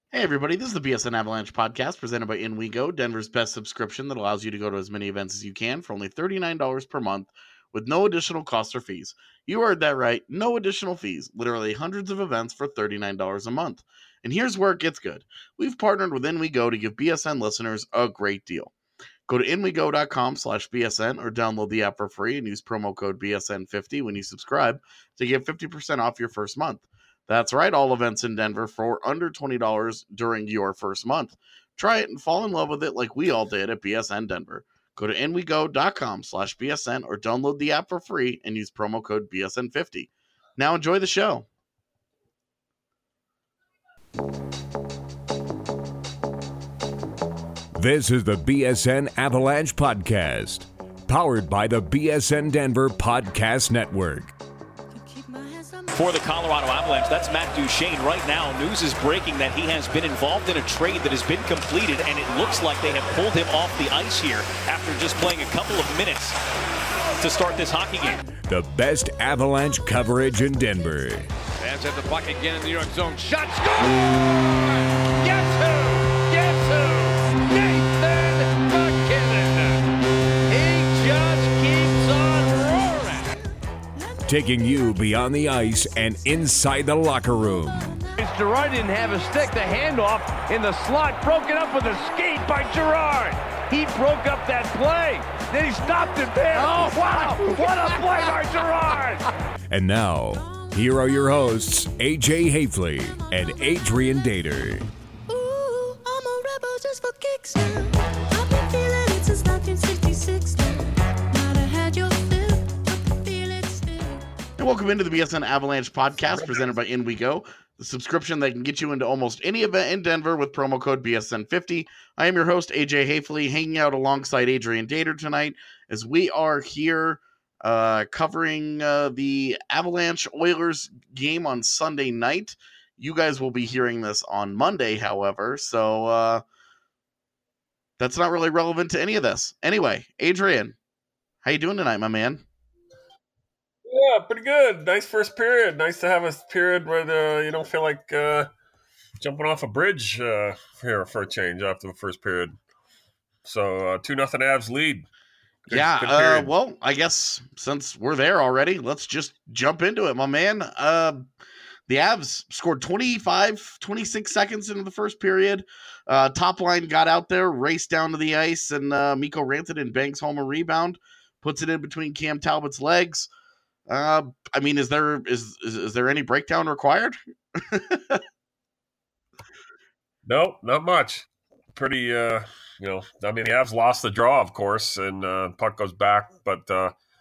Hey everybody, this is the BSN Avalanche podcast presented by In We Go, Denver's best subscription that allows you to go to as many events as you can for only $39 per month with no additional costs or fees. You heard that right, no additional fees. Literally hundreds of events for $39 a month. And here's where it gets good. We've partnered with In We Go to give BSN listeners a great deal. Go to inwego.com/BSN or download the app for free and use promo code BSN50 when you subscribe to get 50% off your first month. That's right, all events in Denver for under $20 during your first month. Try it and fall in love with it like we all did at BSN Denver. Go to inwego.com/BSN or download the app for free and use promo code BSN50. Now enjoy the show. This is the BSN Avalanche Podcast, powered by the BSN Denver Podcast Network. For the Colorado Avalanche, that's Matt Duchene. Right now, news is breaking that he has been involved in a trade that has been completed, and it looks like they have pulled him off the ice here after just playing a couple of minutes to start this hockey game. The best Avalanche coverage in Denver. Fans at the puck again in the New York zone. Shot, score! Guess who? Guess who? Nathan MacKinnon. He just keeps on roaring. Taking you beyond the ice and inside the locker room. Girard didn't have a stick. The handoff in the slot, broken up with a skate by Girard. He broke up that play. Then he stopped it there. Oh, wow. What a play by Girard. And now, here are your hosts, AJ Hafley and Adrian Dater. Ooh, I'm a rebel just for kicks now. I've been feeling it since 1966 now. Might have had your fill, but feel it still. And welcome into the BSN Avalanche podcast presented by In We Go, the subscription that can get you into almost any event in Denver with promo code BSN50. I am your host, AJ Hafley, hanging out alongside Adrian Dater tonight as we are here covering the Avalanche Oilers game on Sunday night. You guys will be hearing this on Monday, however, so that's not really relevant to any of this. Anyway, Adrian, how you doing tonight, my man? Yeah, pretty good. Nice first period. Nice to have a period where you don't feel like jumping off a bridge here for a change after the first period. So 2-0 Avs lead. Good period. Well, I guess since we're there already, let's just jump into it, my man. The Avs scored 26 seconds into the first period. Top line got out there, raced down to the ice, and Mikko Rantanen bangs home a rebound, puts it in between Cam Talbot's legs. I mean, is there any breakdown required? No, not much. Pretty, I mean, the Avs lost the draw, of course, and puck goes back. But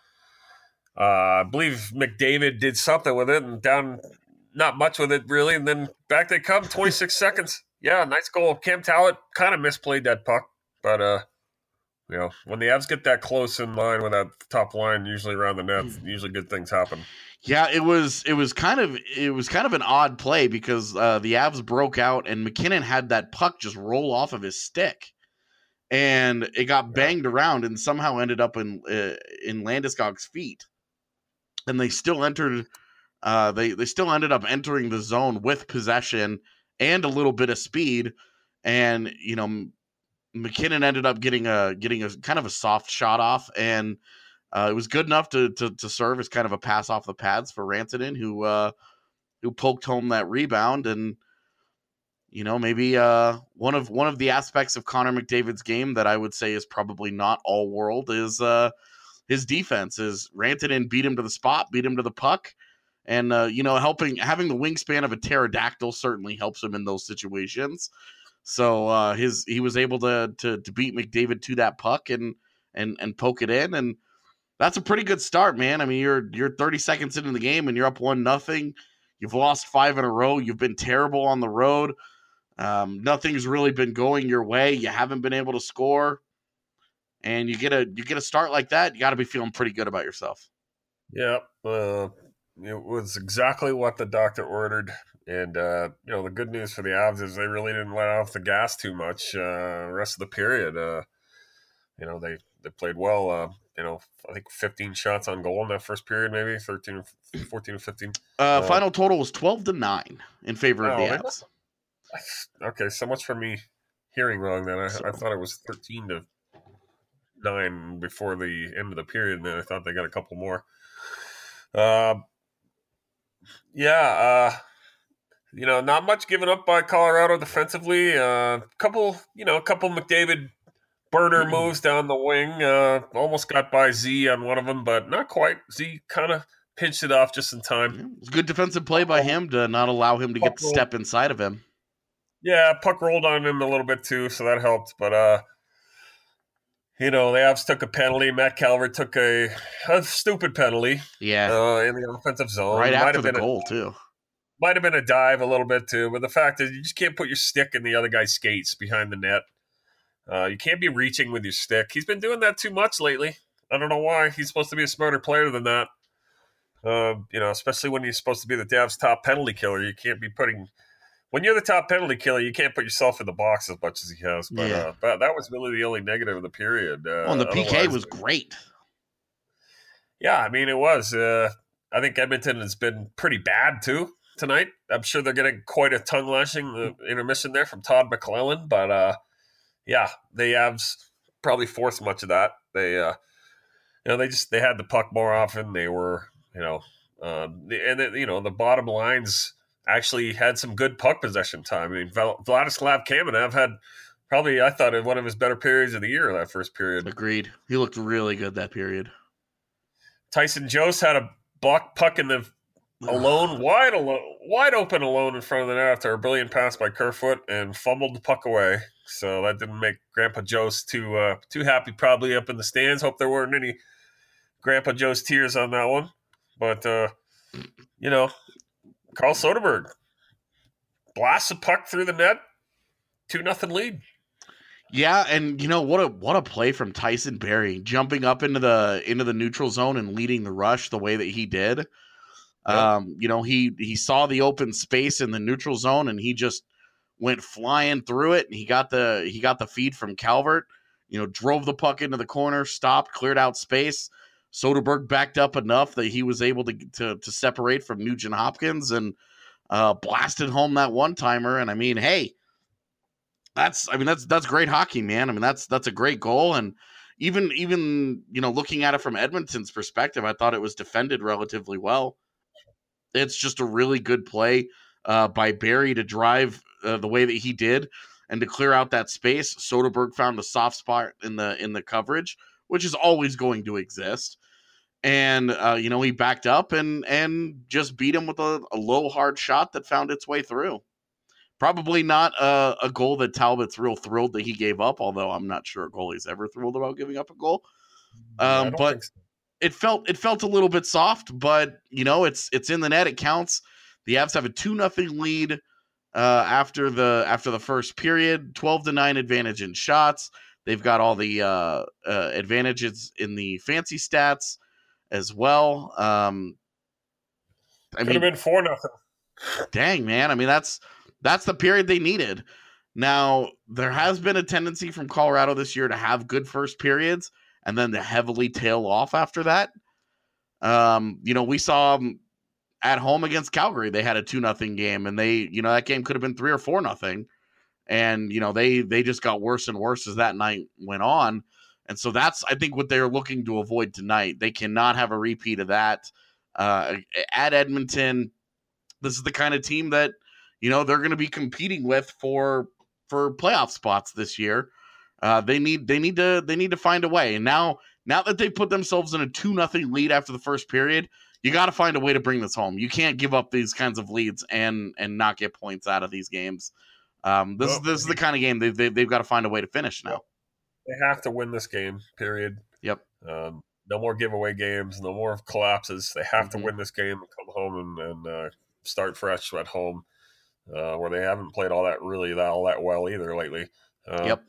I believe McDavid did something with it and down not much with it, really. And then back they come, 26 seconds. Yeah, nice goal. Cam Talbot kind of misplayed that puck. But, when the Avs get that close in line with that top line, usually around the net, usually good things happen. Yeah, it was kind of an odd play because the Avs broke out and McKinnon had that puck just roll off of his stick, and it got banged around and somehow ended up in Landeskog's feet, and they still entered. They still ended up entering the zone with possession and a little bit of speed, and McKinnon ended up getting a kind of a soft shot off, and it was good enough to serve as kind of a pass off the pads for Rantanen, who poked home that rebound. And maybe one of the aspects of Connor McDavid's game that I would say is probably not all world is his defense. Is Rantanen beat him to the spot, beat him to the puck, and having the wingspan of a pterodactyl certainly helps him in those situations. So he was able to beat McDavid to that puck and poke it in, and that's a pretty good start, man. I mean, you're 30 seconds into the game and you're up 1-0. You've lost 5 in a row. You've been terrible on the road. Nothing's really been going your way. You haven't been able to score, and you get a start like that. You got to be feeling pretty good about yourself. Yeah, it was exactly what the doctor ordered. And, the good news for the Avs is they really didn't let off the gas too much the rest of the period. They played well. I think 15 shots on goal in that first period, maybe 14 or 15. Final total was 12-9 in favor of the Avs. Okay, so much for me hearing wrong. Then I thought it was 13-9 before the end of the period, and then I thought they got a couple more. Not much given up by Colorado defensively. Couple McDavid burner moves down the wing. Almost got by Z on one of them, but not quite. Z kind of pinched it off just in time. It was a good defensive play by him to not allow him to get the step inside of him. Yeah, puck rolled on him a little bit too, so that helped. But the Avs took a penalty. Matt Calvert took a stupid penalty. Yeah, in the offensive zone. right after the goal too. Might have been a dive a little bit too, but the fact is you just can't put your stick in the other guy's skates behind the net. You can't be reaching with your stick. He's been doing that too much lately. I don't know why. He's supposed to be a smarter player than that. Especially when you're supposed to be the Avs' top penalty killer. You can't be putting... When you're the top penalty killer, you can't put yourself in the box as much as he has. But that was really the only negative of the period. And the PK was great. Yeah, I mean, it was. I think Edmonton has been pretty bad, too, tonight. I'm sure they're getting quite a tongue lashing, the intermission there from Todd McClellan. But, the Avs probably forced much of that. They had the puck more often. They were, the bottom lines actually had some good puck possession time. I mean, Vladislav Kamenev had probably, I thought, one of his better periods of the year, that first period. Agreed. He looked really good that period. Tyson Jost had a puck in the wide open alone in front of the net after a brilliant pass by Kerfoot and fumbled the puck away. So that didn't make Grandpa Jost too happy, probably up in the stands. Hope there weren't any Grandpa Jost tears on that one. But, Carl Soderberg blasts a puck through the net, 2-0 lead. Yeah, and what a play from Tyson Barrie, jumping up into the neutral zone and leading the rush the way that he did. Yep. He saw the open space in the neutral zone and he just went flying through it. And he got the feed from Calvert. Drove the puck into the corner, stopped, cleared out space. Soderberg backed up enough that he was able to separate from Nugent Hopkins and blasted home that one-timer. And I mean, hey, that's great hockey, man. I mean, that's a great goal. And even looking at it from Edmonton's perspective, I thought it was defended relatively well. It's just a really good play by Barrie to drive the way that he did and to clear out that space. Soderberg found a soft spot in the coverage, which is always going to exist. And, he backed up and just beat him with a low, hard shot that found its way through. Probably not a goal that Talbot's real thrilled that he gave up, although I'm not sure a goalie's ever thrilled about giving up a goal. But so. It felt a little bit soft, but, it's in the net. It counts. The Avs have a 2-0 lead after the first period, 12-9 advantage in shots. They've got all the advantages in the fancy stats as well. Could have been 4-0. Dang, man. I mean, that's the period they needed. Now, there has been a tendency from Colorado this year to have good first periods and then to heavily tail off after that. We saw at home against Calgary, they had a 2-0 game, and that game could have been 3 or 4-0. And, they just got worse and worse as that night went on. And so that's, I think, what they're looking to avoid tonight. They cannot have a repeat of that. At Edmonton, this is the kind of team that, they're going to be competing with for playoff spots this year. They need to find a way. And now that they put themselves in a 2-0 lead after the first period, you got to find a way to bring this home. You can't give up these kinds of leads and not get points out of these games. This is the kind of game they've got to find a way to finish now. They have to win this game, period. Yep. No more giveaway games, no more collapses. They have to win this game and come home and start fresh at home, where they haven't played all that well either lately. Yep.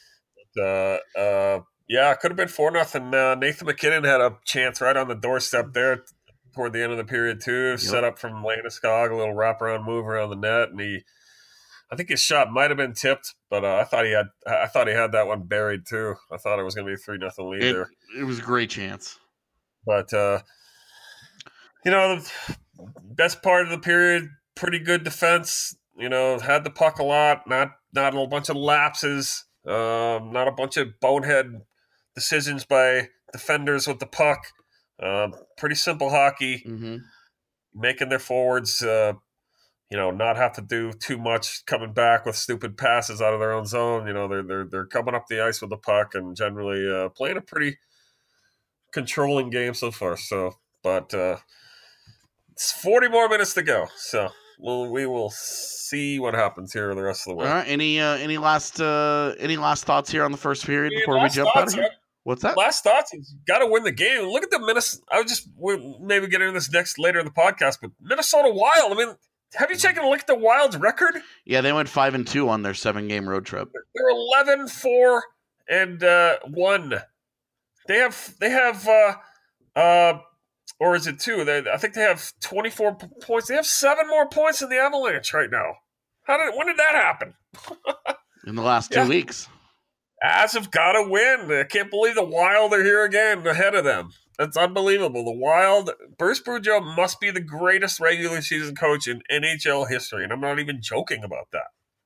It could have been 4-0. Nathan MacKinnon had a chance right on the doorstep there toward the end of the period too. Yep. Set up from Landeskog, a little wraparound move around the net, and I think his shot might have been tipped, but I thought he had that one buried too. I thought it was going to be a 3-0 lead there. It was a great chance. But the best part of the period, pretty good defense. had the puck a lot, not a bunch of lapses, not a bunch of bonehead decisions by defenders with the puck. Pretty simple hockey, making their forwards, not have to do too much coming back with stupid passes out of their own zone. They're coming up the ice with the puck and generally playing a pretty controlling game so far. So, but it's 40 more minutes to go. So we will see what happens here the rest of the way. All right. Any last thoughts here on the first period before we jump out of here? What's that? Last thoughts is got to win the game. Look at the Minnesota. We'll maybe get into this later in the podcast, but Minnesota Wild. I mean, have you taken a look at the Wild's record? Yeah, they went 5-2 on their 7-game road trip. They're 11-4 and 1. They have or is it 2? I think they have 24 points. They have 7 more points than the Avalanche right now. When did that happen? In the last 2 weeks. Avs have got to win. I can't believe the Wild are here again ahead of them. That's unbelievable. The Wild, Bruce Boudreau must be the greatest regular season coach in NHL history, and I'm not even joking about that.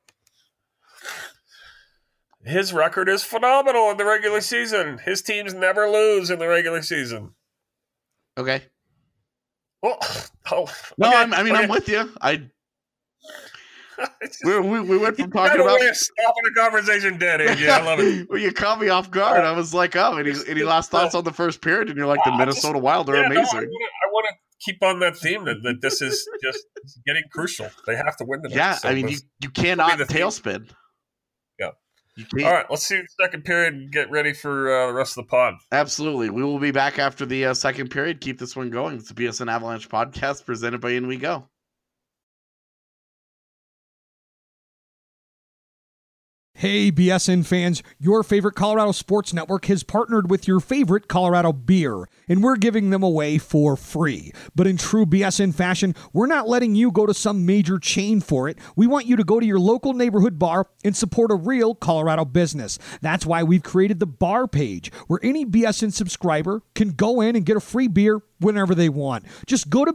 His record is phenomenal in the regular season. His teams never lose in the regular season. Okay. Well, I'm with you. We went from talking about stopping the conversation dead, AJ. I love it. Well, you caught me off guard. I was like, any last thoughts on the first period? And you're like, the Minnesota Wild are amazing. I want to keep on that theme that this is just getting crucial. They have to win the Yeah, so you cannot tailspin. Yeah. All right, let's see the second period and get ready for the rest of the pod. Absolutely. We will be back after the second period. Keep this one going. It's the BSN Avalanche podcast presented by In We Go. Hey, BSN fans, your favorite Colorado Sports Network has partnered with your favorite Colorado beer, and we're giving them away for free. But in true BSN fashion, we're not letting you go to some major chain for it. We want you to go to your local neighborhood bar and support a real Colorado business. That's why we've created the bar page, where any BSN subscriber can go in and get a free beer whenever they want. Just go to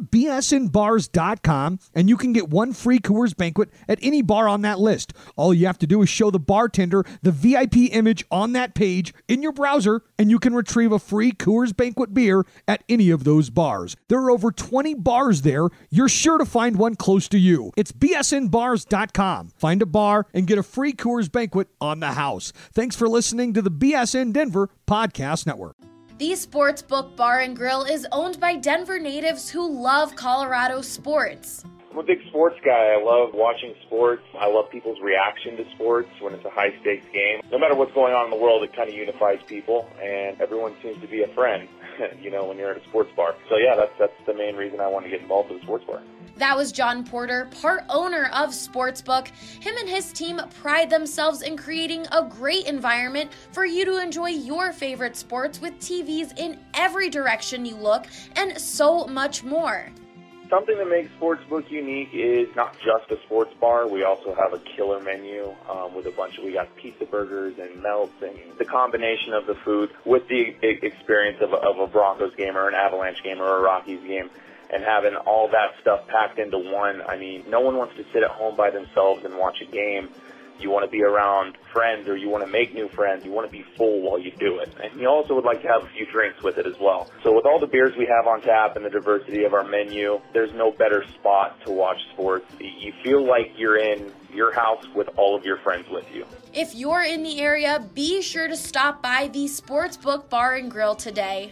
bsnbars.com and you can get one free Coors Banquet at any bar on that list. All you have to do is show the bartender the VIP image on that page in your browser, and you can retrieve a free Coors Banquet beer at any of those bars. There are over 20 bars there. You're sure to find one close to you. It's bsnbars.com. Find a bar and get a free Coors Banquet on the house. Thanks for listening to the BSN Denver Podcast Network. The Sportsbook Bar and Grill is owned by Denver natives who love Colorado sports. I'm a big sports guy. I love watching sports. I love people's reaction to sports when it's a high-stakes game. No matter what's going on in the world, it kind of unifies people, and everyone seems to be a friend, when you're at a sports bar. So, yeah, that's the main reason I want to get involved with a sports bar. That was John Porter, part owner of Sportsbook. Him and his team pride themselves in creating a great environment for you to enjoy your favorite sports with TVs in every direction you look and so much more. Something that makes Sportsbook unique is not just a sports bar. We also have a killer menu with we got pizza burgers and melts, and the combination of the food with the experience of a Broncos game or an Avalanche game or a Rockies game, and having all that stuff packed into one. I mean, no one wants to sit at home by themselves and watch a game. You want to be around friends, or you want to make new friends. You want to be full while you do it. And you also would like to have a few drinks with it as well. So with all the beers we have on tap and the diversity of our menu, there's no better spot to watch sports. You feel like you're in your house with all of your friends with you. If you're in the area, be sure to stop by the Sportsbook Bar and Grill today.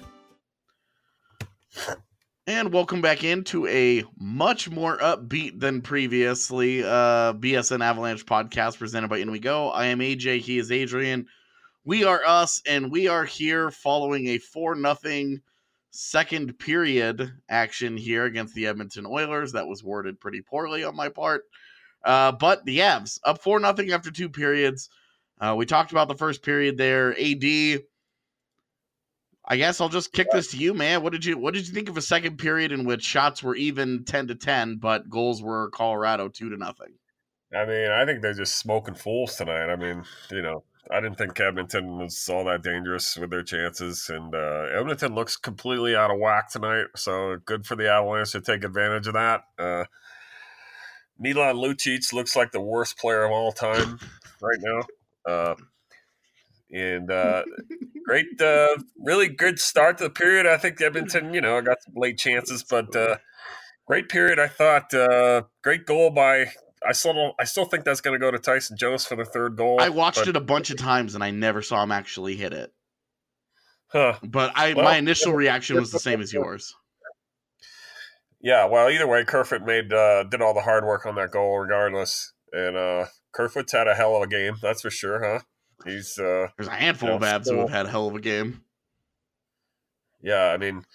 And welcome back into a much more upbeat than previously BSN Avalanche podcast presented by In We Go. I am AJ, he is Adrian. We are us, and we are here following a 4-0 second period action here against the Edmonton Oilers. That was worded pretty poorly on my part. But the Avs up 4-0 after 2 periods. We talked about the first period there. AD, I guess I'll just kick this to you, man. What did you think of a second period in which shots were even 10-10, but goals were Colorado 2-0? I mean, I think they're just smoking fools tonight. I mean, I didn't think Edmonton was all that dangerous with their chances, and Edmonton looks completely out of whack tonight. So good for the Avalanche to take advantage of that. Milan Lucic looks like the worst player of all time right now. And great, really good start to the period. I think Edmonton, got some late chances, but great period. I thought great goal by. I still think that's going to go to Tyson Jones for the third goal. I watched it a bunch of times and I never saw him actually hit it. Huh. But my initial reaction was the same as yours. Yeah, well, either way, Kerfoot did all the hard work on that goal regardless. And Kerfoot's had a hell of a game, that's for sure, huh? He's there's a handful of Avs who have had a hell of a game. Yeah, I mean,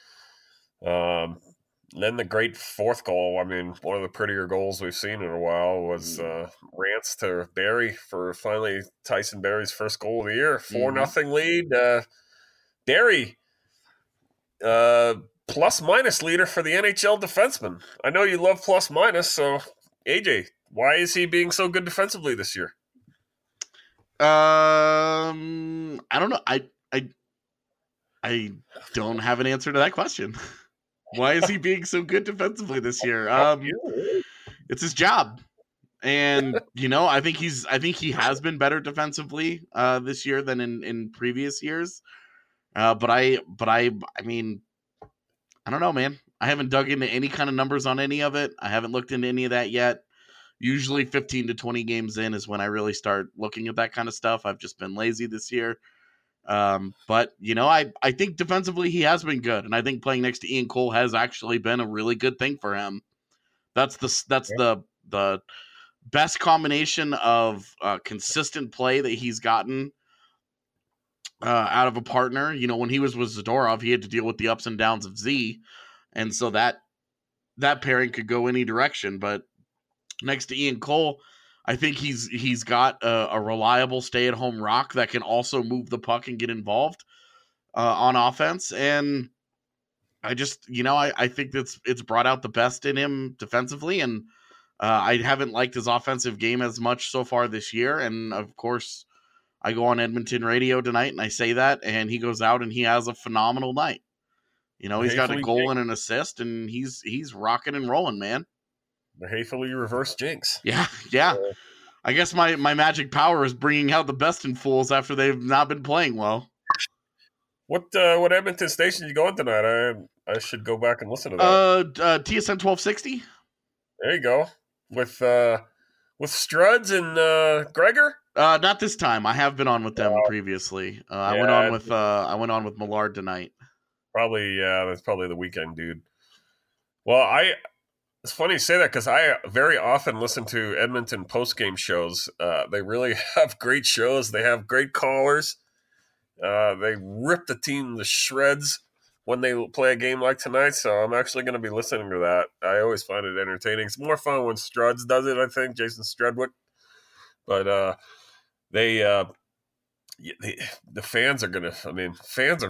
then the great fourth goal, I mean, one of the prettier goals we've seen in a while was Rance to Barrie for finally Tyson Barrie's first goal of the year. 4-0 lead. Barrie, plus-minus leader for the NHL defenseman. I know you love plus-minus, so AJ, why is he being so good defensively this year? I don't know. I don't have an answer to that question. Why is he being so good defensively this year? It's his job. And I think he has been better defensively this year than in previous years. But I mean, I don't know, man. I haven't dug into any kind of numbers on any of it. I haven't looked into any of that yet. Usually 15 to 20 games in is when I really start looking at that kind of stuff. I've just been lazy this year. But I think defensively he has been good. And I think playing next to Ian Cole has actually been a really good thing for him. That's the best combination of consistent play that he's gotten out of a partner. When he was with Zadorov, he had to deal with the ups and downs of Z. And so that pairing could go any direction. But next to Ian Cole, I think he's got a reliable stay-at-home rock that can also move the puck and get involved on offense. And I just, I think it's brought out the best in him defensively. And I haven't liked his offensive game as much so far this year. And of course, I go on Edmonton radio tonight and I say that, and he goes out and he has a phenomenal night. He's got a goal and an assist, and he's rocking and rolling, man. The Hayfully reverse jinx. Yeah. I guess my magic power is bringing out the best in fools after they've not been playing well. What Edmonton station you going tonight? I should go back and listen to that. TSN 1260. There you go. With Struds and Gregor. Not this time. I have been on with them previously. I went on with Millard tonight. Probably, that's probably the weekend, dude. Well, it's funny you say that because I very often listen to Edmonton post-game shows. They really have great shows. They have great callers. They rip the team to shreds when they play a game like tonight, so I'm actually going to be listening to that. I always find it entertaining. It's more fun when Struds does it, I think, Jason Strudwick. But the fans are going to – I mean, fans are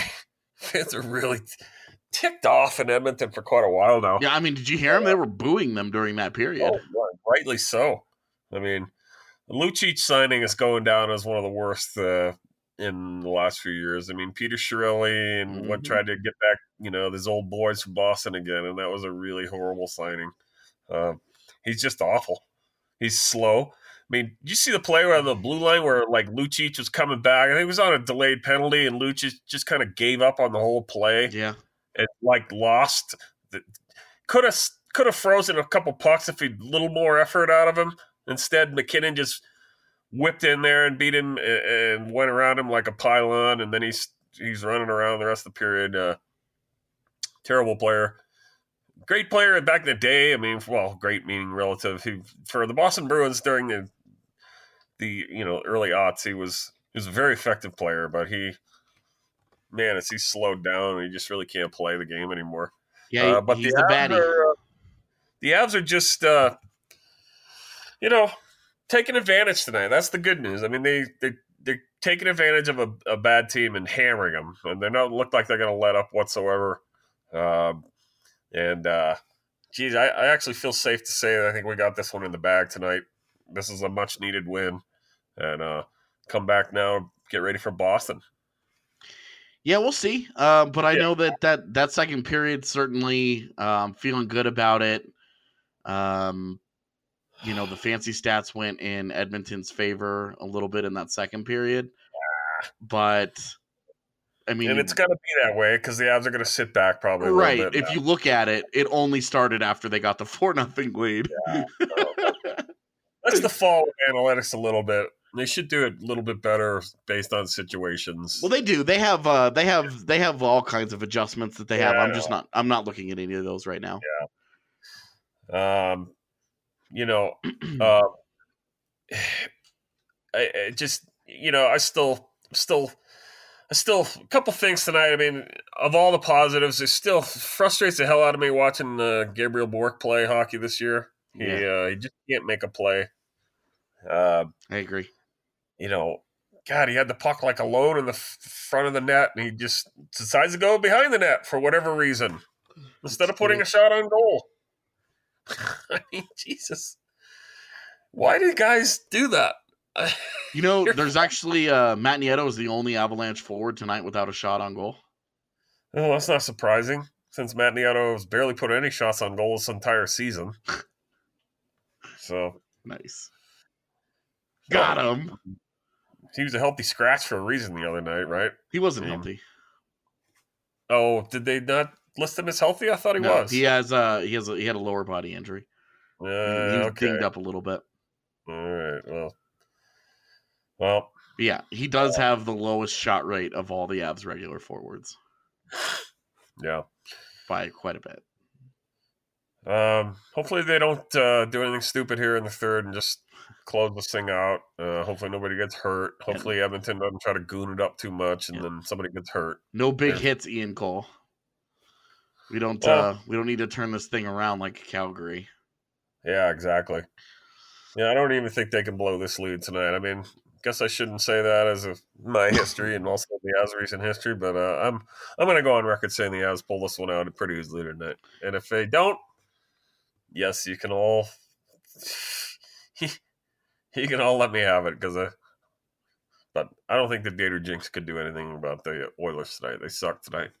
really ticked off in Edmonton for quite a while now. Yeah, I mean, did you hear them? They were booing them during that period. Oh, rightly so. I mean, the Lucic signing is going down as one of the worst in the last few years. I mean, Peter Chiarelli and what tried to get back, these old boys from Boston again, and that was a really horrible signing. He's just awful. He's slow. I mean, did you see the play on the blue line where, Lucic was coming back? I think it was on a delayed penalty, and Lucic just kind of gave up on the whole play. Yeah. And, lost. Could have frozen a couple pucks if he'd a little more effort out of him. Instead, McKinnon just whipped in there and beat him and went around him like a pylon, and then he's running around the rest of the period. Terrible player. Great player back in the day. I mean, well, great meaning relative. For the Boston Bruins during the early aughts, he was a very effective player, but as he's slowed down, he just really can't play the game anymore. Yeah, but he's the baddie. The Avs are just, taking advantage tonight. That's the good news. I mean, they're taking advantage of a bad team and hammering them, and they don't look like they're going to let up whatsoever. Geez, I actually feel safe to say that I think we got this one in the bag tonight. This is a much-needed win, and come back now, get ready for Boston. Yeah, we'll see. But I know that second period, certainly feeling good about it. the fancy stats went in Edmonton's favor a little bit in that second period. But, I mean... And it's going to be that way because the Avs are going to sit back probably a right. little bit. If you look at it, it only started after they got the 4-0 lead. Yeah, that's the fall of analytics a little bit. They should do it a little bit better based on situations. Well, they do. They have all kinds of adjustments that they have. I'm not looking at any of those right now. Yeah. I just, I still a couple things tonight. I mean, of all the positives, it still frustrates the hell out of me watching Gabriel Bourque play hockey this year. He just can't make a play. I agree. God, he had the puck like alone in the front of the net, and he just decides to go behind the net for whatever reason instead of putting a shot on goal. I mean, Jesus. Why do guys do that? There's actually Matt Nieto is the only Avalanche forward tonight without a shot on goal. Oh, that's not surprising, since Matt Nieto has barely put any shots on goal this entire season. So nice. Got him. He was a healthy scratch for a reason the other night, right? He wasn't healthy. Oh, did they not list him as healthy? I thought he was. He had a lower body injury. He was dinged up a little bit. All right. Well. Yeah, he does have the lowest shot rate of all the Avs regular forwards. Yeah. By quite a bit. Hopefully they don't do anything stupid here in the third and just close this thing out. Hopefully nobody gets hurt. Hopefully Edmonton doesn't try to goon it up too much and then somebody gets hurt. No big hits, Ian Cole. We don't need to turn this thing around like Calgary. Yeah, exactly. Yeah, I don't even think they can blow this lead tonight. I mean, guess I shouldn't say that as of my history and also the Avs' recent history, but I'm going to go on record saying the Avs pull this one out pretty easily tonight. And if they don't, yes, you can all let me have it but I don't think the Dater Jinx could do anything about the Oilers tonight. They suck tonight.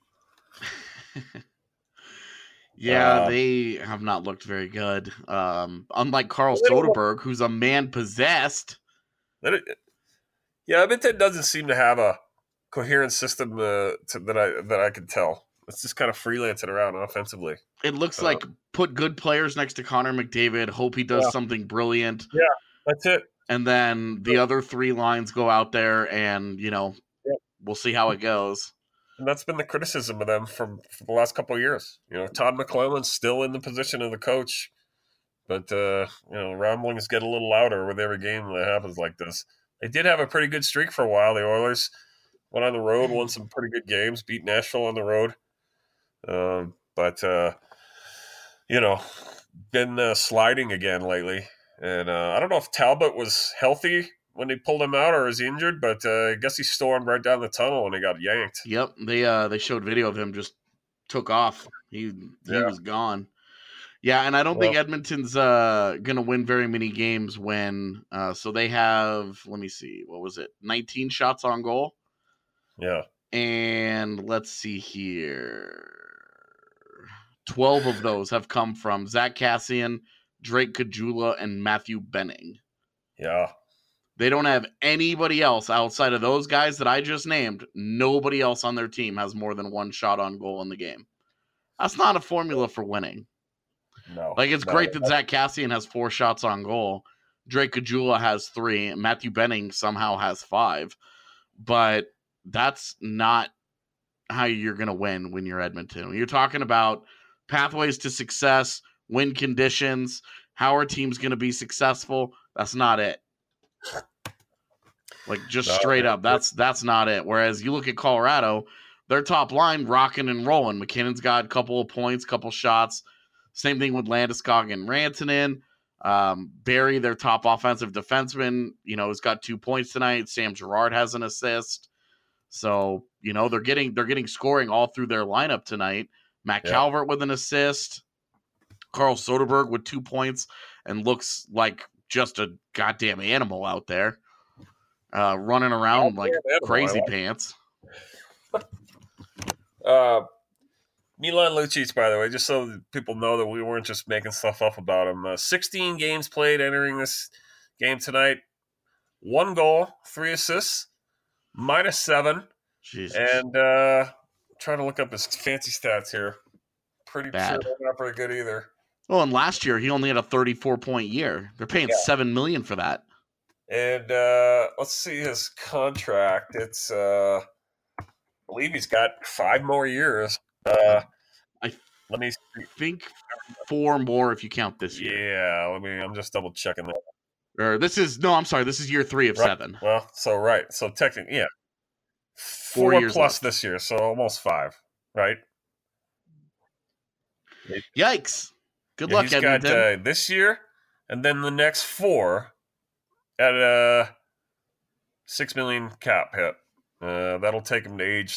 Yeah, they have not looked very good. Unlike Carl Soderberg, who's a man possessed. Yeah, Edmonton doesn't seem to have a coherent system that I can tell. It's just kind of freelancing around offensively. It looks like put good players next to Connor McDavid, hope he does something brilliant. Yeah, that's it. And then the other three lines go out there and, we'll see how it goes. And that's been the criticism of them for the last couple of years. Todd McClellan's still in the position of the coach, but rumblings get a little louder with every game that happens like this. They did have a pretty good streak for a while. The Oilers went on the road, won some pretty good games, beat Nashville on the road. But been sliding again lately. And I don't know if Talbot was healthy when they pulled him out or is he injured, but I guess he stormed right down the tunnel and he got yanked. Yep, they showed video of him just took off. He was gone. Yeah, and I don't think Edmonton's going to win very many games when so they have, let me see, what was it? 19 shots on goal. Yeah. And let's see here. 12 of those have come from Zach Kassian, Drake Caggiula, and Matthew Benning. Yeah. They don't have anybody else outside of those guys that I just named. Nobody else on their team has more than one shot on goal in the game. That's not a formula for winning. No. It's great that Zach Kassian has 4 shots on goal. Drake Caggiula has 3. And Matthew Benning somehow has 5. But that's not how you're going to win when you're Edmonton. When you're talking about pathways to success, win conditions, how our team's going to be successful, that's not it. Straight up, that's not it. Whereas you look at Colorado, their top line rocking and rolling. McKinnon's got a couple of points, couple shots. Same thing with Landeskog and Rantanen. Barry, their top offensive defenseman, has got 2 points tonight. Sam Girard has an assist. So, they're getting scoring all through their lineup tonight. Matt Calvert with an assist. Carl Soderberg with 2 points and looks like just a goddamn animal out there. Running around like crazy pants. Milan Lucic, by the way, just so that people know that we weren't just making stuff up about him. 16 games played entering this game tonight. 1 goal, 3 assists, -7. Jesus. And trying to look up his fancy stats here. Pretty Bad. sure they're not very good either. Well, and last year he only had a 34-point year. They're paying $7 million for that. And let's see his contract. It's I believe he's got 5 more years. Let me see. I think 4 more if you count this year. Yeah, I'm just double checking that. Or this is year 3 of 7. Well, so technically, yeah, 4 years plus left. this year, so almost 5, right? Yikes! Good luck, He's Edmonton. got this year, and then the next 4 at a $6 million cap hit. That'll take him to age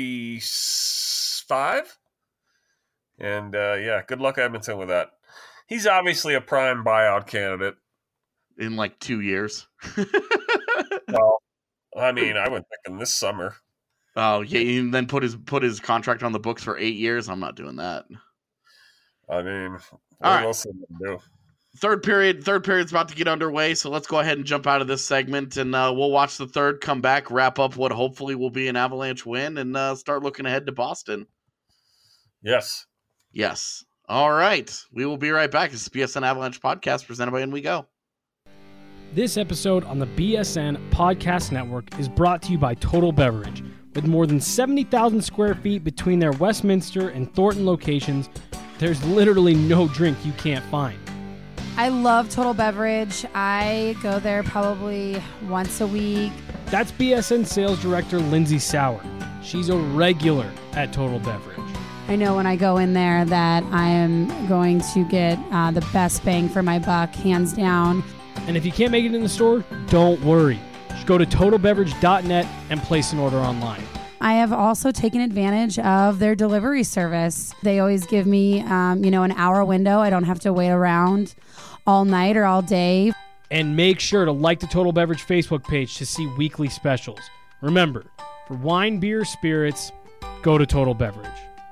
35. And good luck, Edmonton, with that. He's obviously a prime buyout candidate. In like 2 years. Well, I mean, I went thinking this summer. Oh yeah, and then put his contract on the books for 8 years. I'm not doing that. I mean, All right. what else can we do? Third period's about to get underway, so let's go ahead and jump out of this segment, and we'll watch the third, come back, wrap up what hopefully will be an Avalanche win, and start looking ahead to Boston. Yes. Yes. All right. We will be right back. It's the BSN Avalanche podcast presented by In We Go. This episode on the BSN Podcast Network is brought to you by Total Beverage. With more than 70,000 square feet between their Westminster and Thornton locations, there's literally no drink you can't find. I love Total Beverage. I go there probably once a week. That's BSN Sales Director Lindsay Sauer. She's a regular at Total Beverage. I know when I go in there that I am going to get the best bang for my buck, hands down. And if you can't make it in the store, don't worry. Just go to totalbeverage.net and place an order online. I have also taken advantage of their delivery service. They always give me, an hour window. I don't have to wait around all night or all day. And make sure to like the Total Beverage Facebook page to see weekly specials. Remember, for wine, beer, spirits, go to Total Beverage.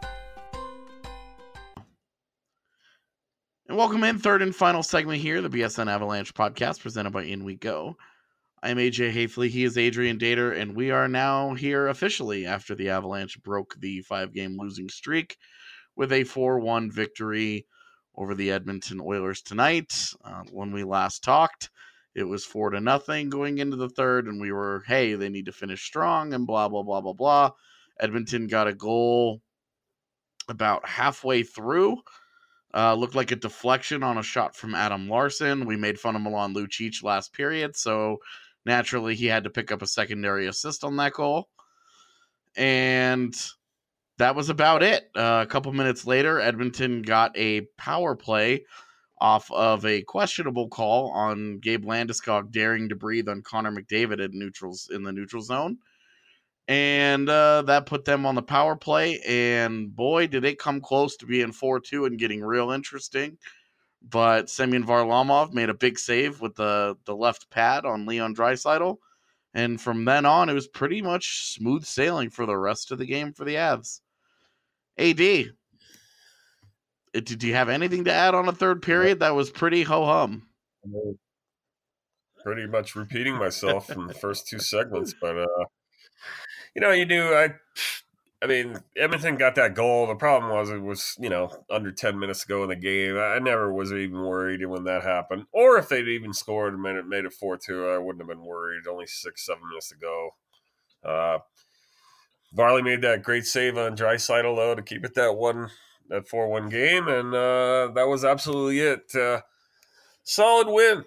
And welcome in, third and final segment here, the BSN Avalanche podcast presented by In We Go. I'm AJ Haefele, he is Adrian Dater, and we are now here officially after the Avalanche broke the 5-game losing streak with a 4-1 victory over the Edmonton Oilers tonight. When we last talked, it was 4-0 going into the third, and we were, hey, they need to finish strong and blah, blah, blah, blah, blah. Edmonton got a goal about halfway through. Looked like a deflection on a shot from Adam Larson. We made fun of Milan Lucic last period, so naturally he had to pick up a secondary assist on that goal. And that was about it. A couple minutes later, Edmonton got a power play off of a questionable call on Gabe Landeskog daring to breathe on Connor McDavid in the neutral zone. And that put them on the power play, and boy, did it come close to being 4-2 and getting real interesting. But Semyon Varlamov made a big save with the left pad on Leon Draisaitl, and from then on, it was pretty much smooth sailing for the rest of the game for the Avs. AD, did you have anything to add on a third period? That was pretty ho-hum. Pretty much repeating myself in the first 2 segments, but you do. I mean, Edmonton got that goal. The problem was it was, under 10 minutes to go in the game. I never was even worried when that happened. Or if they'd even scored and made it 4-2, I wouldn't have been worried. Only 6-7 minutes to go. Varley made that great save on Draisaitl, though, to keep it that 4-1 game, and that was absolutely it. Solid win.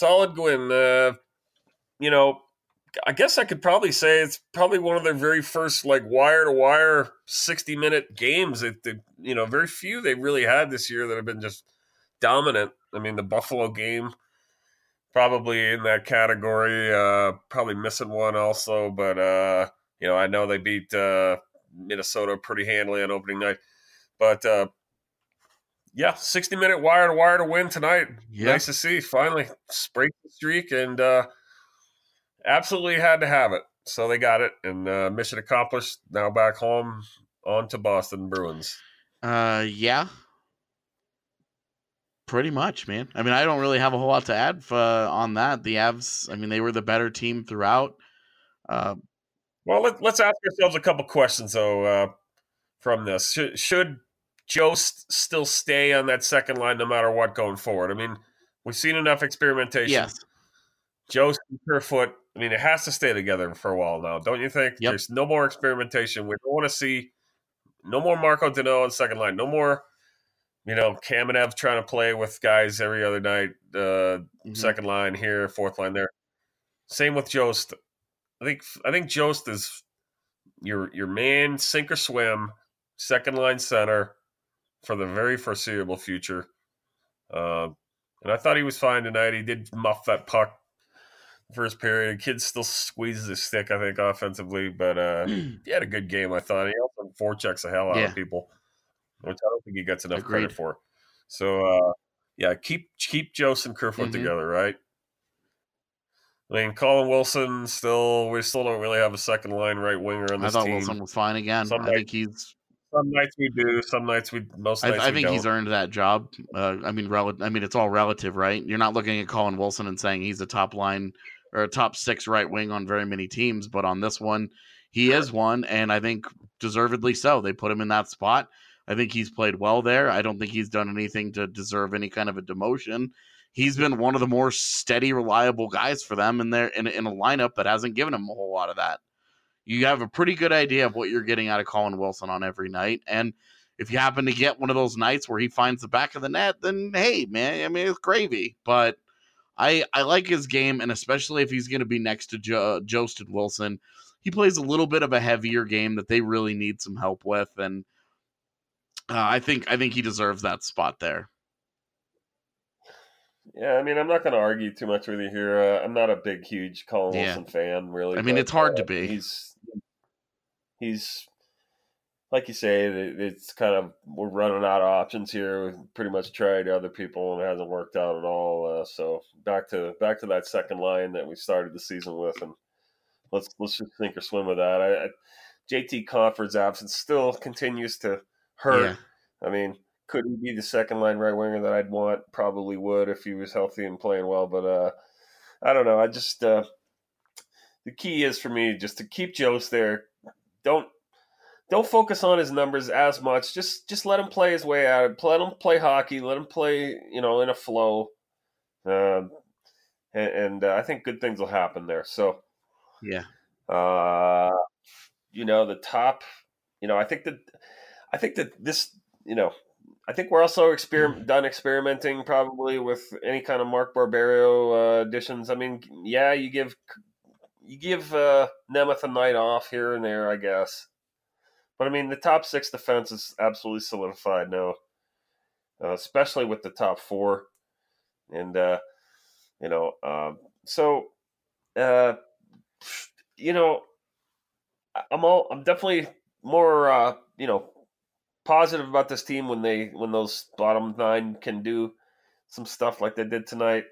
I guess I could probably say it's probably one of their very first wire-to-wire 60-minute games. Very few they really had this year that have been just dominant. I mean, the Buffalo game probably in that category. Probably missing one also, but I know they beat Minnesota pretty handily on opening night. But 60-minute wire-to-wire to win tonight. Yeah. Nice to see. Finally, break the streak and. Absolutely had to have it. So they got it, and mission accomplished. Now back home on to Boston Bruins. Yeah. Pretty much, man. I mean, I don't really have a whole lot to add on that. The Avs, I mean, they were the better team throughout. Well, let's ask ourselves a couple questions, though, from this. Should Jost still stay on that second line no matter what going forward? I mean, we've seen enough experimentation. Yes. Jost and Kerfoot, I mean, it has to stay together for a while now, don't you think? Yep. There's no more experimentation. We don't want to see no more Marco Danault on second line. No more, Kamenev trying to play with guys every other night. Second line here, fourth line there. Same with Jost. I think Jost is your man, sink or swim, second line center for the very foreseeable future. And I thought he was fine tonight. He did muff that puck first period. Kid still squeezes his stick, I think, offensively, but he had a good game, I thought. He also forechecks the hell out of people, which I don't think he gets enough credit for. So, keep Jost and Kerfoot together, right? I mean, Colin Wilson we still don't really have a second line right winger on this team. I thought Wilson was fine again. Some nights we do, some nights we most nights I think don't. he's earned that job. I mean, it's all relative, right? You're not looking at Colin Wilson and saying he's a top line or a top six right wing on very many teams, but on this one, he is one, and I think deservedly so. They put him in that spot. I think he's played well there. I don't think he's done anything to deserve any kind of a demotion. He's been one of the more steady, reliable guys for them in a lineup that hasn't given him a whole lot of that. You have a pretty good idea of what you're getting out of Colin Wilson on every night. And if you happen to get one of those nights where he finds the back of the net, then hey, man, I mean, it's gravy. But I like his game, and especially if he's going to be next to Jost and Wilson, he plays a little bit of a heavier game that they really need some help with. And I think he deserves that spot there. Yeah, I mean, I'm not going to argue too much with you here. I'm not a big, huge Colin Wilson fan, really. I mean, it's hard to be. He's like you say, it's kind of, we're running out of options here. We've pretty much tried other people, and it hasn't worked out at all. So back to that second line that we started the season with, and let's just sink or swim with that. JT Compher's absence still continues to hurt. Yeah. I mean, could he be the second line right winger that I'd want? Probably would if he was healthy and playing well. But I don't know. I just the key is for me just to keep Jost there. Don't focus on his numbers as much. Just let him play his way out. Let him play hockey. Let him play, in a flow. And I think good things will happen there. So yeah. The top. I think that this. I think we're also done experimenting probably with any kind of Mark Barberio additions. I mean, yeah, you give Nemeth a night off here and there, I guess. But I mean, the top six defense is absolutely solidified now, especially with the top four, and I'm definitely more positive about this team when those bottom nine can do some stuff like they did tonight.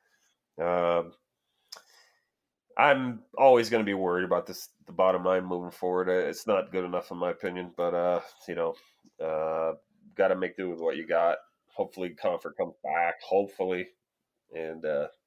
I'm always going to be worried about the bottom nine moving forward. It's not good enough in my opinion, but got to make do with what you got. Hopefully Compher comes back, hopefully. And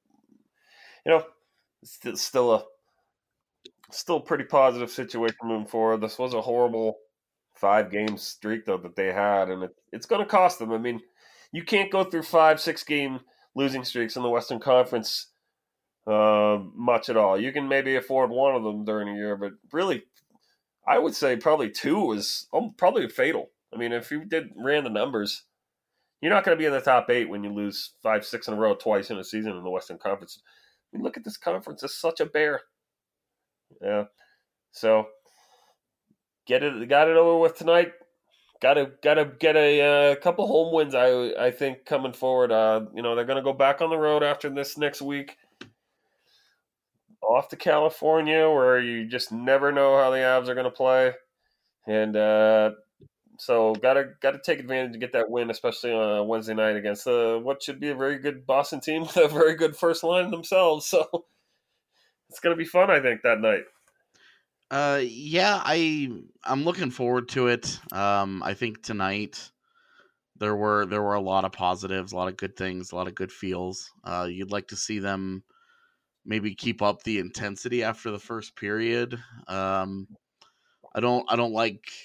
it's still a pretty positive situation moving forward. This was a horrible 5-game streak though that they had, and it's going to cost them. I mean, you can't go through 5-6 game losing streaks in the Western Conference much at all. You can maybe afford one of them during a year, but really, I would say probably 2 is probably fatal. I mean, if you ran the numbers, you're not going to be in the top 8 when you lose 5-6 in a row twice in a season in the Western Conference. I mean, look at this conference; it's such a bear. Yeah, so. Got it over with tonight. Got to get a couple home wins. I think coming forward. They're going to go back on the road after this next week, off to California, where you just never know how the Avs are going to play, and so got to take advantage to get that win, especially on Wednesday night against what should be a very good Boston team, a very good first line themselves. So it's going to be fun, I think, that night. Yeah, I'm looking forward to it. I think tonight there were a lot of positives, a lot of good things, a lot of good feels. You'd like to see them maybe keep up the intensity after the first period. I don't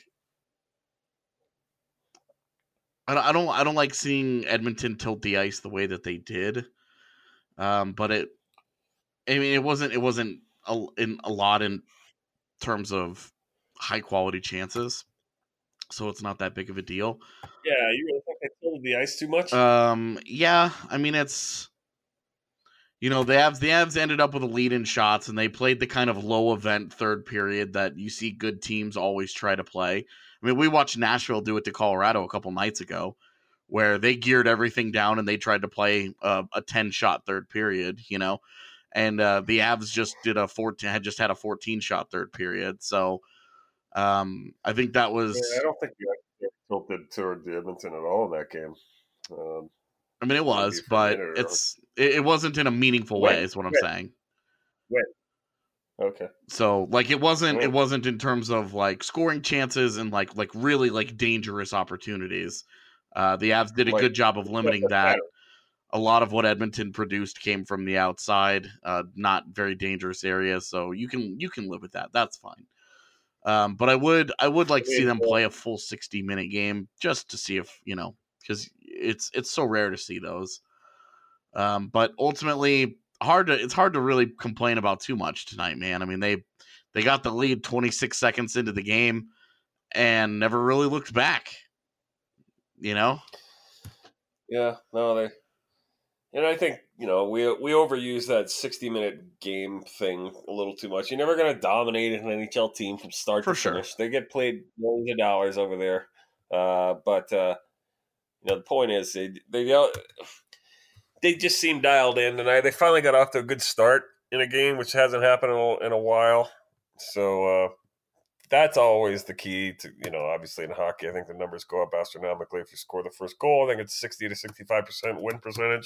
like seeing Edmonton tilt the ice the way that they did. But it wasn't in a lot in terms of high quality chances, so it's not that big of a deal. Yeah, you really think they tilted the ice too much? Yeah, I mean it's the Avs ended up with a lead in shots, and they played the kind of low event third period that you see good teams always try to play. I mean, we watched Nashville do it to Colorado a couple nights ago, where they geared everything down and they tried to play a 10-shot third period, and the Avs just had a 14-shot third period. So I think that was. Yeah, I don't think the ice tilted toward the Edmonton at all in that game. I mean, it was, but it wasn't in a meaningful way, is what I'm saying. Okay. So, like, it wasn't in terms of like scoring chances and like really like dangerous opportunities. The Avs did a good job of limiting that. A lot of what Edmonton produced came from the outside, not very dangerous areas. So you can live with that. That's fine. But I would like to see them play a full 60-minute game just to see if because it's so rare to see those. But ultimately, it's hard to really complain about too much tonight, man. I mean, they got the lead 26 seconds into the game and never really looked back. Yeah, no, and I think we overuse that 60-minute game thing a little too much. You're never going to dominate an NHL team from start to finish. They get played millions of dollars over there, but the point is they just seem dialed in tonight. They finally got off to a good start in a game, which hasn't happened in a while. So that's always the key to, obviously in hockey, I think the numbers go up astronomically if you score the first goal. I think it's 60 to 65% win percentage.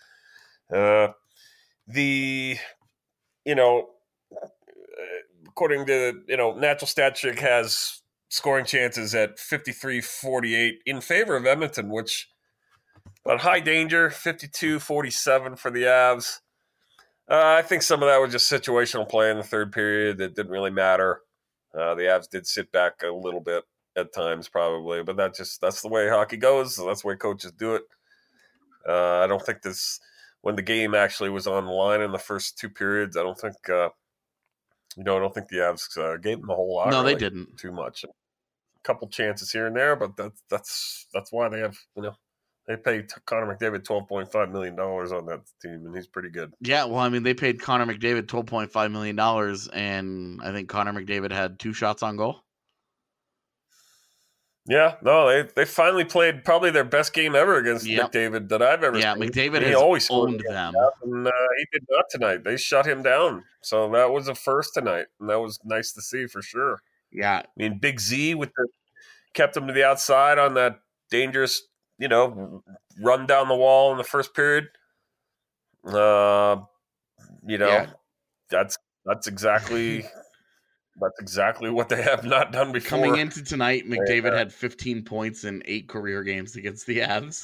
According to, Natural Stat Trick has scoring chances at 53-48 in favor of Edmonton, which but high danger, 52-47 for the Avs. I think some of that was just situational play in the third period that didn't really matter. The Avs did sit back a little bit at times, probably, but that's the way hockey goes. That's the way coaches do it. I don't think when the game actually was on the line in the first two periods, I don't think the Avs gave them a whole lot. No, they didn't too much. A couple chances here and there, but that's why they have they paid Connor McDavid $12.5 million on that team, and he's pretty good. Yeah, well, I mean, they paid Connor McDavid $12.5 million, and I think Connor McDavid had 2 shots on goal. Yeah, no, they finally played probably their best game ever against McDavid that I've ever seen. Yeah, McDavid has always owned them. And he did not tonight. They shut him down. So that was a first tonight, and that was nice to see for sure. Yeah. I mean, Big Z kept him to the outside on that dangerous, run down the wall in the first period. That's exactly what they have not done before. Coming into tonight, McDavid had 15 points in 8 career games against the Avs.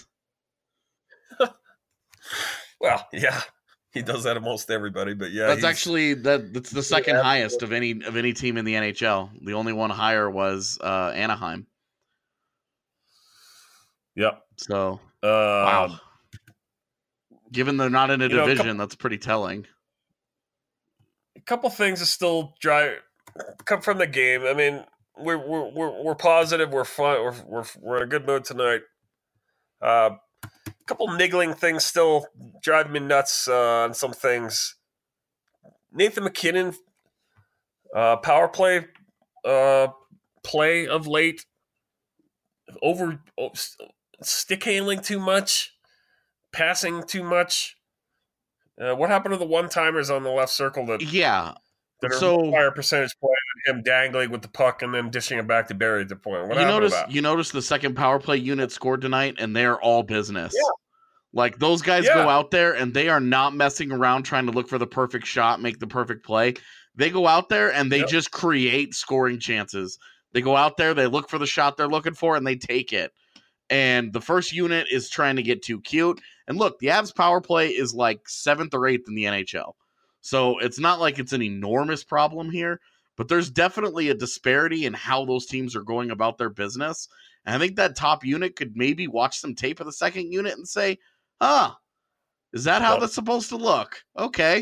Well, yeah, he does that to most everybody, but yeah, that's the second highest of any team in the NHL. The only one higher was Anaheim. Yep. So, wow. Given they're not in a division, that's pretty telling. A couple things that still come from the game. I mean, we're positive. We're fun. We're in a good mood tonight. A couple niggling things still drive me nuts on some things. Nathan MacKinnon, power play of late, stick handling too much, passing too much. What happened to the one-timers on the left circle that are higher percentage play than him dangling with the puck and then dishing it back to Barry at the point? What happened to that? You notice the second power play unit scored tonight, and they're all business. Yeah. Like, those guys go out there and they are not messing around trying to look for the perfect shot, make the perfect play. They go out there and they just create scoring chances. They go out there, they look for the shot they're looking for, and they take it. And the first unit is trying to get too cute. And look, the Avs power play is like 7th or 8th in the NHL. So it's not like it's an enormous problem here, but there's definitely a disparity in how those teams are going about their business. And I think that top unit could maybe watch some tape of the second unit and say, is that how that's supposed to look? Okay.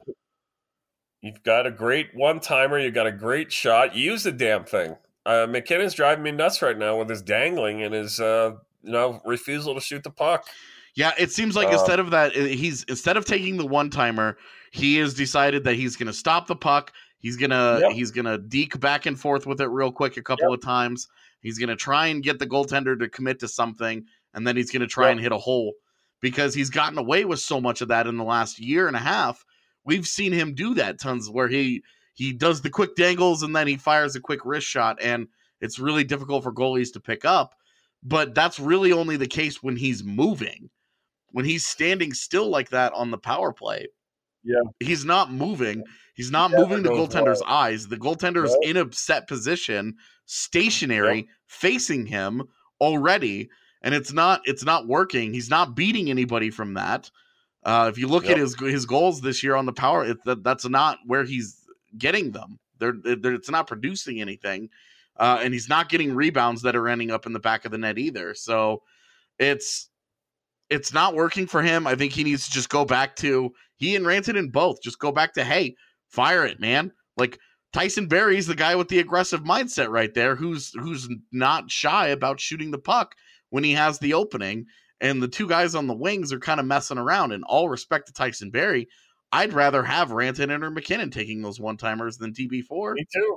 You've got a great one-timer. You got a great shot. Use the damn thing. McKinnon's driving me nuts right now with his dangling and his refusal to shoot the puck. Yeah, it seems like instead of taking the one-timer, he has decided that he's going to stop the puck. He's gonna deke back and forth with it real quick a couple of times. He's gonna try and get the goaltender to commit to something, and then he's gonna try and hit a hole. Because he's gotten away with so much of that in the last year and a half. We've seen him do that tons where he does the quick dangles and then he fires a quick wrist shot, and it's really difficult for goalies to pick up. But that's really only the case when he's moving. When he's standing still like that on the power play, he's not moving. He's not moving the goaltender's eyes. The goaltender's in a set position, stationary, facing him already. And it's not working. He's not beating anybody from that. If you look at his goals this year on the power, that's not where he's getting them. It's not producing anything, and he's not getting rebounds that are ending up in the back of the net either. So it's not working for him. I think he needs to just go back to he and Rantanen both just go back to hey, fire it, man. Like Tyson Barrie's the guy with the aggressive mindset right there, who's not shy about shooting the puck when he has the opening, and the two guys on the wings are kind of messing around. And all respect to Tyson Barrie, I'd rather have Rantanen or McKinnon taking those one-timers than TB4.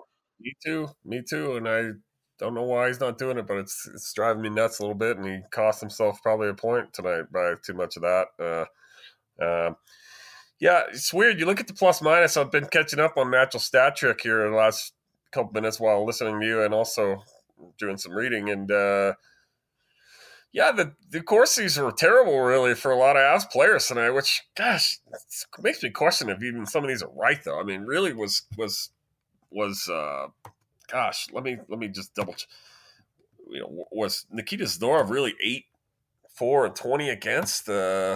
Me too. And I don't know why he's not doing it, but it's driving me nuts a little bit, and he cost himself probably a point tonight by too much of that. It's weird. You look at the plus-minus. I've been catching up on Natural Stat Trick here in the last couple minutes while listening to you and also doing some reading, and the Corsi's were terrible, really, for a lot of Avs players tonight. Which, gosh, it makes me question if even some of these are right, though. I mean, really was gosh, let me just double check. Was Nikita Zadorov really 8-4-20 against?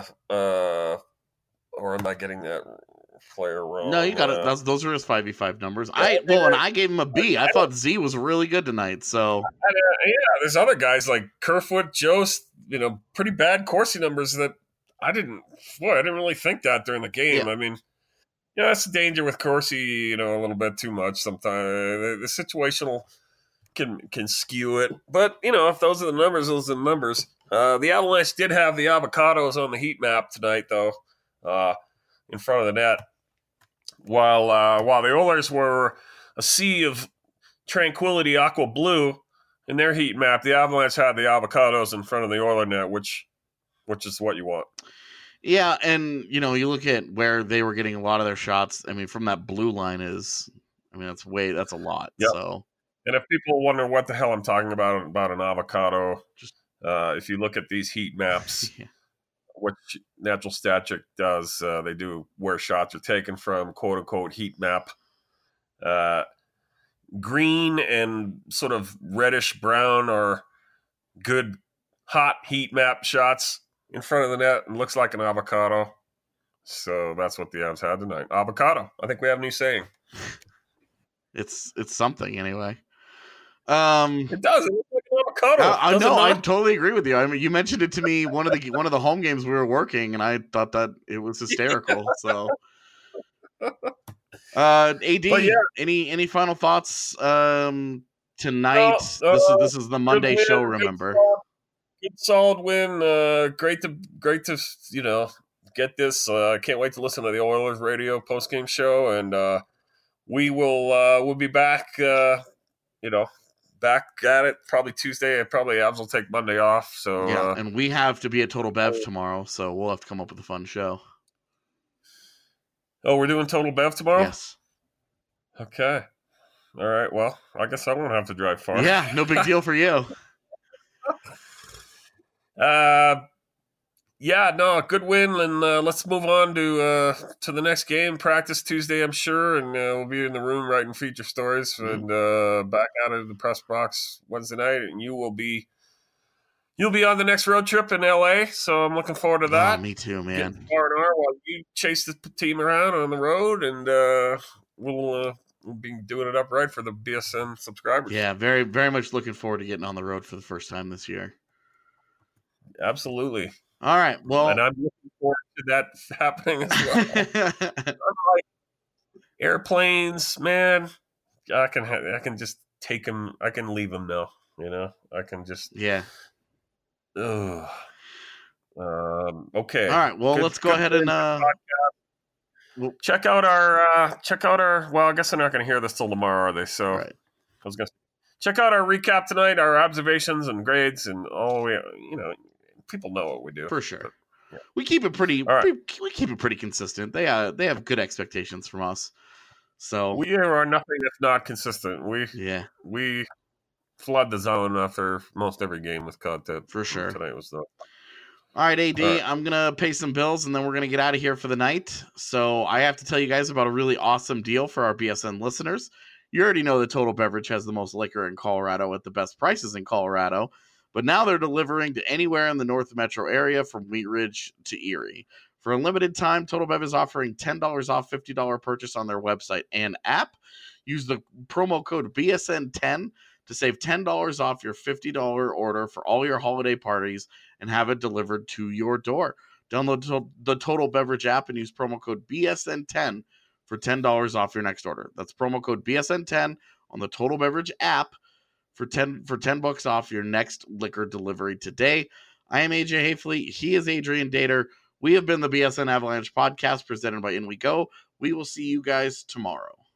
Or am I getting that player wrong? No, you got it. Those are his 5v5 numbers. And I gave him a B. I thought Z was really good tonight. So there's other guys like Kerfoot, Jost, pretty bad Corsi numbers that I didn't really think that during the game. Yeah. I mean, that's the danger with Corsi, a little bit too much sometimes. The situational can skew it. But, if those are the numbers, those are the numbers. The Avalanche did have the avocados on the heat map tonight, though, in front of the net. While the Oilers were a sea of tranquility, aqua blue, in their heat map, the Avalanche had the avocados in front of the Oiler net, which is what you want. Yeah, and you look at where they were getting a lot of their shots. I mean, from that blue line that's a lot. Yep. So, and if people wonder what the hell I'm talking about an avocado, if you look at these heat maps, what Natural Stat Trick does, they do where shots are taken from, quote unquote heat map. Green and sort of reddish brown are good hot heat map shots in front of the net, and looks like an avocado. So that's what the Avs had tonight. Avocado. I think we have a new saying. It's something anyway. It does. It looks like an avocado. I know. I totally agree with you. I mean, you mentioned it to me one of the home games we were working, and I thought that it was hysterical. So, AD, any final thoughts tonight? This is the Monday show. Remember. Good solid win. Great to get this. Can't wait to listen to the Oilers radio post-game show, and we'll be back. Back at it probably Tuesday. Probably Avs will take Monday off. So and we have to be at Total Bev tomorrow, so we'll have to come up with a fun show. Oh, we're doing Total Bev tomorrow? Yes. Okay. All right. Well, I guess I won't have to drive far. Yeah, no big deal for you. Yeah, no, good win, and let's move on to the next game. Practice Tuesday, I'm sure, and we'll be in the room writing feature stories, and back out of the press box Wednesday night, and you'll be on the next road trip in LA. So I'm looking forward to that. Oh, me too, man. R&R while you chase the team around on the road, and we'll be doing it up right for the BSN subscribers. Yeah, very, very much looking forward to getting on the road for the first time this year. Absolutely. All right. Well, and I'm looking forward to that happening as well. Like airplanes, man. I can just take them. I can leave them now. I can just Okay. All right. Well, let's go ahead and check out our. Well, I guess they're not going to hear this till tomorrow, are they? So right. I was going to check out our recap tonight, our observations and grades, and all we. People know what we do for sure. But, yeah. We keep it pretty. Right. We keep it pretty consistent. They have good expectations from us. So we are nothing if not consistent. We flood the zone after most every game with content. For sure. Tonight was the. All right, AD, All right. I'm going to pay some bills, and then we're going to get out of here for the night. So I have to tell you guys about a really awesome deal for our BSN listeners. You already know that Total Beverage has the most liquor in Colorado at the best prices in Colorado, but now they're delivering to anywhere in the North Metro area from Wheat Ridge to Erie. For a limited time, Total Bev is offering $10 off $50 purchase on their website and app. Use the promo code BSN10 to save $10 off your $50 order for all your holiday parties and have it delivered to your door. Download the Total Beverage app and use promo code BSN10 for $10 off your next order. That's promo code BSN10 on the Total Beverage app for $10 off your next liquor delivery today. I am AJ Hayfley. He is Adrian Dater. We have been the BSN Avalanche podcast presented by In We Go. We will see you guys tomorrow.